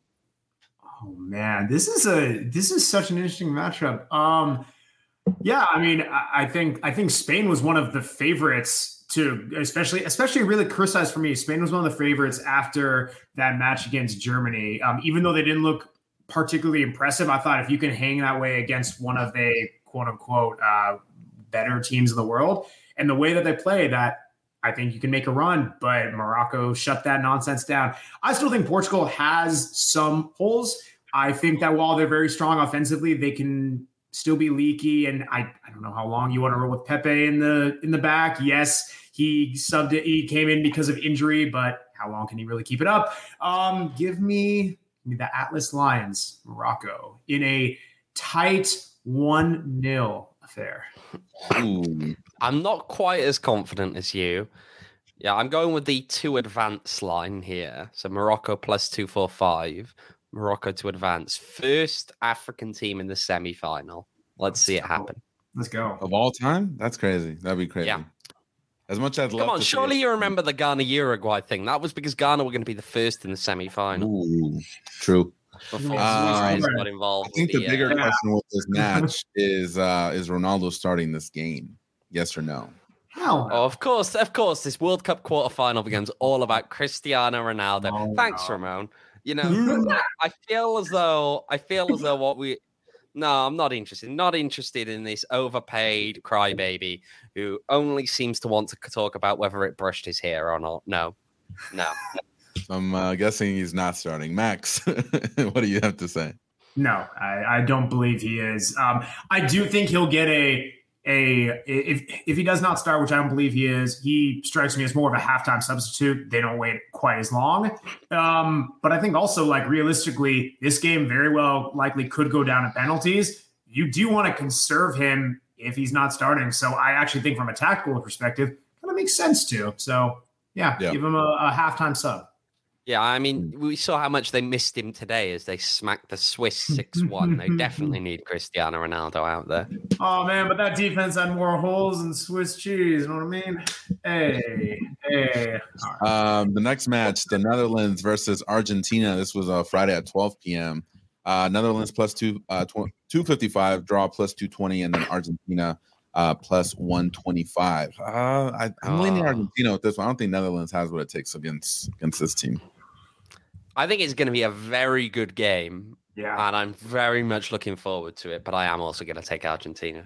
Oh man, this is a this is such an interesting matchup. Um, yeah, I mean, I, I think I think Spain was one of the favorites to, especially especially really criticized for me. Spain was one of the favorites after that match against Germany. Um, even though they didn't look particularly impressive, I thought if you can hang that way against one of the quote unquote uh, better teams in the world, and the way that they play, that I think you can make a run. But Morocco shut that nonsense down. I still think Portugal has some holes. I think that while they're very strong offensively, they can still be leaky. And I, I don't know how long you want to roll with Pepe in the in the back. Yes, he subbed it. He came in because of injury, but how long can he really keep it up? Um, give me, give me the Atlas Lions, Morocco, in a tight one nil affair. Ooh. I'm not quite as confident as you. Yeah, I'm going with the two advance line here. So Morocco plus two four five. Morocco to advance. First African team in the semi-final. Let's see it happen. Let's go. Of all time? That's crazy. That'd be crazy. Yeah. As much as I'd love Come on, to surely see you remember the Ghana-Uruguay thing. That was because Ghana were going to be the first in the semi-final. Ooh, true. Before Um, Suarez got involved. I think with the bigger uh, question with this match is uh, is Ronaldo starting this game? Yes or no? Hell no. Oh, of course, of course. This World Cup quarterfinal becomes all about Cristiano Ronaldo. Oh, Thanks, no. Ramon. You know, I feel as though I feel as though what we No, I'm not interested. Not interested in this overpaid crybaby who only seems to want to talk about whether it brushed his hair or not. No, no. I'm uh, guessing he's not starting. Max, what do you have to say? No, I, I don't believe he is. Um, I do think he'll get a a if if he does not start, which I don't believe he is. He strikes me as more of a halftime substitute. They don't wait quite as long. Um, but I think also, like, realistically, this game very well likely could go down to penalties. You do want to conserve him if he's not starting. So I actually think from a tactical perspective, kind of makes sense too. So yeah, yeah. give him a, a halftime sub. Yeah, I mean, we saw how much they missed him today as they smacked the Swiss six one. They definitely need Cristiano Ronaldo out there. Oh, man, but that defense had more holes than Swiss cheese. You know what I mean? Hey, hey. Right. Um, the next match, the Netherlands versus Argentina. This was uh, Friday at twelve p.m. Uh, Netherlands plus two, uh, tw- two fifty-five, draw plus two twenty, and then Argentina uh, plus one twenty-five. Uh, I, I'm oh. leaning Argentina with this one. I don't think Netherlands has what it takes against against this team. I think it's going to be a very good game. Yeah. And I'm very much looking forward to it, but I am also going to take Argentina.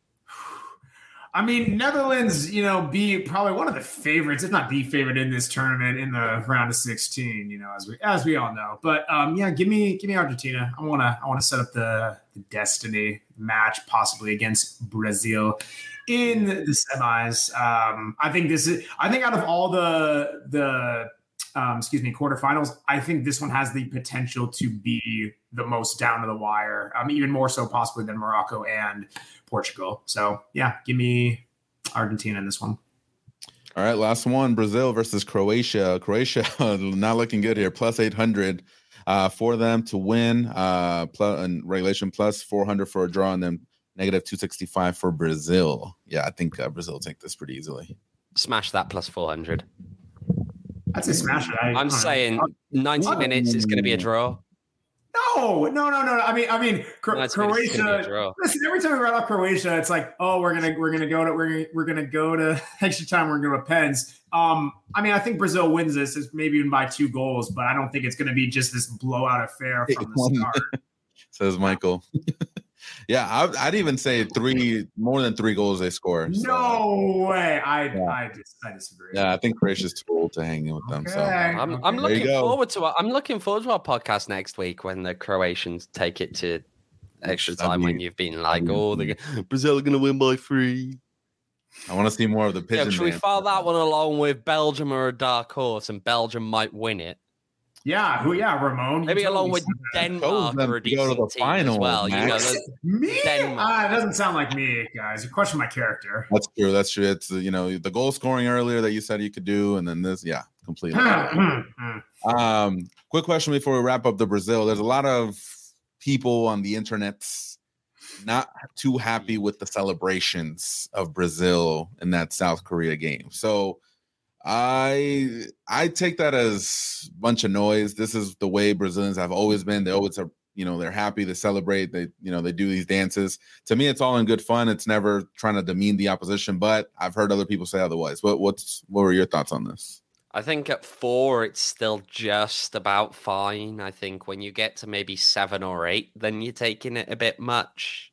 I mean, Netherlands, you know, be probably one of the favorites, if not the favorite in this tournament in the round of sixteen, you know, as we as we all know. But um, yeah, give me give me Argentina. I wanna I wanna set up the, the destiny match possibly against Brazil in the semis. Um, I think this is I think out of all the the Um, excuse me, quarterfinals, I think this one has the potential to be the most down to the wire, um, even more so possibly than Morocco and Portugal. So, yeah, give me Argentina in this one. All right, last one, Brazil versus Croatia. Croatia not looking good here, plus eight hundred uh, for them to win, uh, plus, and regulation plus four hundred for a draw, and then negative two sixty-five for Brazil. Yeah, I think uh, Brazil will take this pretty easily. Smash that plus four hundred. I'd say smash it. I, I'm saying ninety what? minutes. It's going to be a draw. No, no, no, no. I mean, I mean, Cro- Croatia. Listen, every time we run off Croatia, it's like, oh, we're gonna, we're gonna go to, we're gonna, we're gonna go to extra time. We're gonna go to pens. Um, I mean, I think Brazil wins this, is maybe even by two goals, but I don't think it's going to be just this blowout affair from the start. Says Michael. Yeah, I'd, I'd even say three, more than three goals they score. So. No way. I, yeah. I, dis- I disagree. Yeah, I think Croatia's too old to hang in with them. Okay. So I'm, okay. I'm looking forward to. Our, I'm looking forward to our podcast next week when the Croatians take it to extra time. I mean, when you've been like, oh, the Brazil are going to win by three. I want to see more of the pigeon. Yeah, should we file that one along with Belgium or a dark horse, and Belgium might win it? Yeah, who? Yeah, Ramon. Maybe along with Denmark or a decent go to the team final, as well. Max. You know, me? Uh, it doesn't sound like me, guys. You question my character. That's true. That's true. It's you know the goal scoring earlier that you said you could do, and then this, yeah, completely. um, quick question before we wrap up the Brazil. There's a lot of people on the internet not too happy with the celebrations of Brazil in that South Korea game. So. I I take that as a bunch of noise. This is the way Brazilians have always been. They always are, you know, they're happy to celebrate. They, you know, they do these dances. To me, it's all in good fun. It's never trying to demean the opposition, but I've heard other people say otherwise. What what's what were your thoughts on this? I think at four, it's still just about fine. I think when you get to maybe seven or eight, then you're taking it a bit much.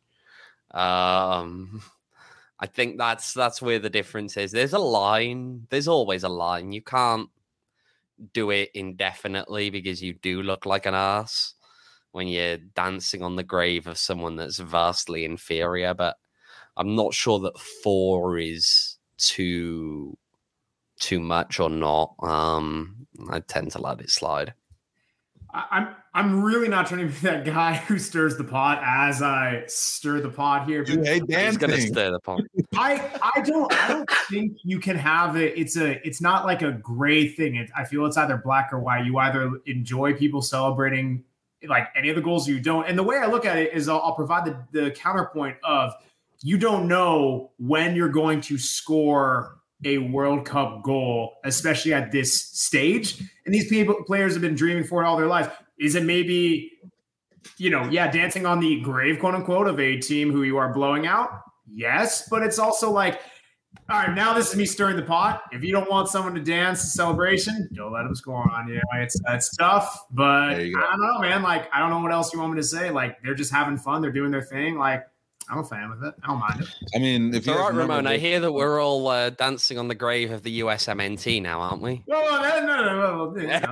Um I think that's that's where the difference is. There's a line. There's always a line. You can't do it indefinitely because you do look like an ass when you're dancing on the grave of someone that's vastly inferior. But I'm not sure that four is too too much or not. Um, I tend to let it slide. I'm I'm really not trying to be that guy who stirs the pot as I stir the pot here. You hate dancing. He's gonna stir the pot. I I don't I don't think you can have it. It's a it's not like a gray thing. It, I feel it's either black or white. You either enjoy people celebrating like any of the goals, or you don't. And the way I look at it is I'll, I'll provide the, the counterpoint of you don't know when you're going to score a World Cup goal, especially at this stage. And these people, players have been dreaming for it all their lives. Is it maybe, you know, yeah, dancing on the grave, quote unquote, of a team who you are blowing out? Yes. But it's also like, All right, now this is me stirring the pot. If you don't want someone to dance the celebration, don't let them score on you. It's it's tough, but I don't know, man. Like, I don't know what else you want me to say. Like, they're just having fun. They're doing their thing. Like, I'm a fan of it. I don't mind it. I mean, if you're right, Ramon, I hear that we're all uh, dancing on the grave of the U S M N T now, aren't we? No, no, no, no, no. no.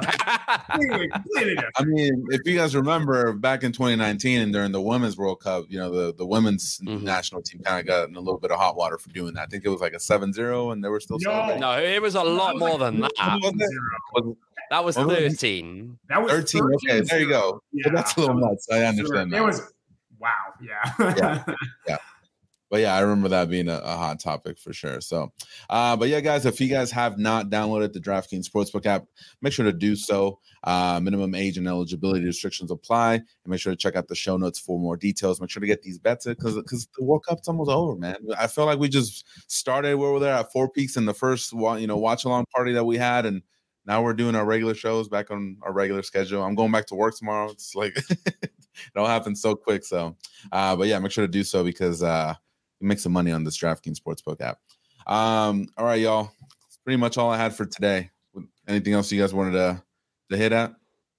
I mean, if you guys remember back in twenty nineteen and during the Women's World Cup, you know, the, the women's mm-hmm. national team kind of got in a little bit of hot water for doing that. I think it was like a seven zero and they were still no, celebrating. No, it was a lot more than that. Was that was thirteen. That was thirteen. Okay, there you go. Yeah. So that's a little nuts. I understand that. It was, wow, yeah. yeah. Yeah. But yeah, I remember that being a, a hot topic for sure. So, uh, but yeah, guys, if you guys have not downloaded the DraftKings Sportsbook app, make sure to do so. Uh, minimum age and eligibility restrictions apply. And make sure to check out the show notes for more details. Make sure to get these bets in because because the World Cup's almost over, man. I feel like we just started where we're there at Four Peaks in the first you know watch along party that we had, and now we're doing our regular shows back on our regular schedule. I'm going back to work tomorrow. It's like it all happens so quick. So, uh, but yeah, make sure to do so because. Uh, Make some money on this DraftKings Sportsbook app. Um, all right, y'all. That's pretty much all I had for today. Anything else you guys wanted to, to hit at?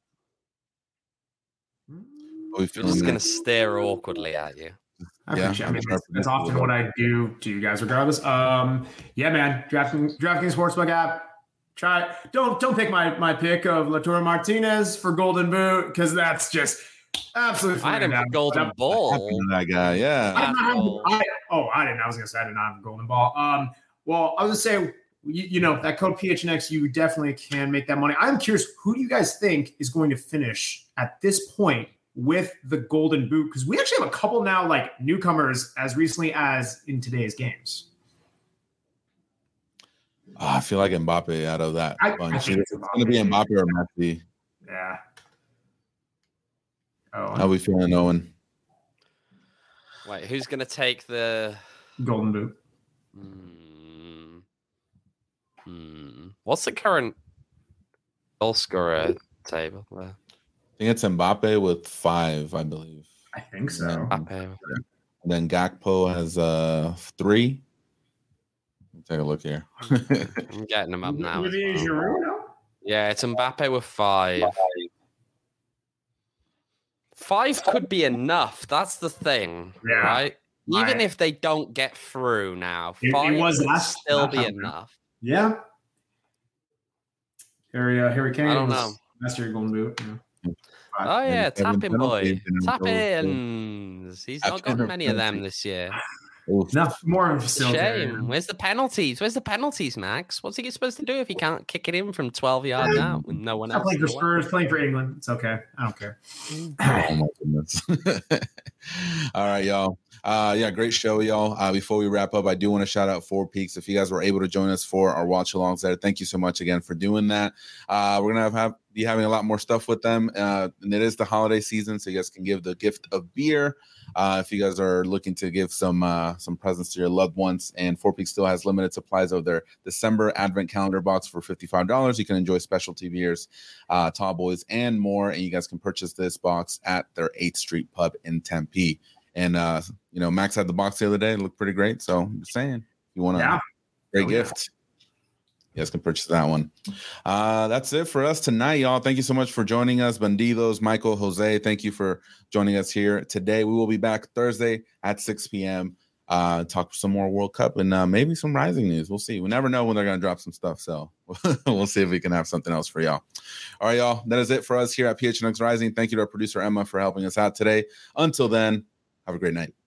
We're just going to stare awkwardly at you. I yeah, I mean, that's, that's often what I do to you guys, regardless. Um, yeah, man. DraftKings, DraftKings Sportsbook app. Try it. Don't don't pick my my pick of Lautaro Martinez for Golden Boot because that's just. Absolutely. I had him for Golden Ball. That guy, yeah. I did not have, I, oh, I didn't. I was going to say I did not have a Golden Ball. Um, well, I was going to say, you, you know, that code P H N X, you definitely can make that money. I'm curious, who do you guys think is going to finish at this point with the Golden Boot? Because we actually have a couple now, like newcomers, as recently as in today's games. Oh, I feel like Mbappe out of that I, bunch. I think it's, it's going to be Mbappe or Messi. Yeah. Oh, how we feeling, Owen? Wait, who's going to take the Golden Boot? Hmm. Hmm. What's the current goal scorer table there? I think it's Mbappe with five, I believe. I think so. Mbappe. And then Gakpo has uh three. Let's take a look here. I'm getting them up now. Well. Yeah, it's Mbappe with five. Five could be enough. That's the thing, yeah. right? Even My, if they don't get through now, it, five it was would last, still be enough. Yeah. Harry, uh, Harry Kane. I don't know. That's your Golden Boot. Yeah. Oh yeah, tapping boy, tap ins. He's not got many of them this year. No, more of a shame. Where's the penalties? Where's the penalties, Max? What's he supposed to do if he can't kick it in from twelve yards yeah. out with no one I'm else? Playing for Spurs, playing for England. It's okay. I don't care. Oh my goodness. All right, y'all. Uh, yeah, great show, y'all. Uh, before we wrap up, I do want to shout out Four Peaks. If you guys were able to join us for our watch alongs there, thank you so much again for doing that. Uh, we're gonna have, have be having a lot more stuff with them, uh, and it is the holiday season, so you guys can give the gift of beer. Uh, if you guys are looking to give some uh, some presents to your loved ones, and Four Peaks still has limited supplies of their December Advent Calendar box for fifty-five dollars. You can enjoy specialty beers, uh, tall boys, and more. And you guys can purchase this box at their eighth Street Pub in Tempe. And uh, you know, Max had the box the other day; it looked pretty great. So I'm just saying, if you want a yeah. great oh, gift. Yeah. You guys can purchase that one. Uh, that's it for us tonight, y'all. Thank you so much for joining us. Bandidos, Michael, Jose, thank you for joining us here today. We will be back Thursday at six p.m. Uh, talk some more World Cup and uh, maybe some Rising news. We'll see. We never know when they're going to drop some stuff. So we'll see if we can have something else for y'all. All right, y'all. That is it for us here at P H N X Rising. Thank you to our producer, Emma, for helping us out today. Until then, have a great night.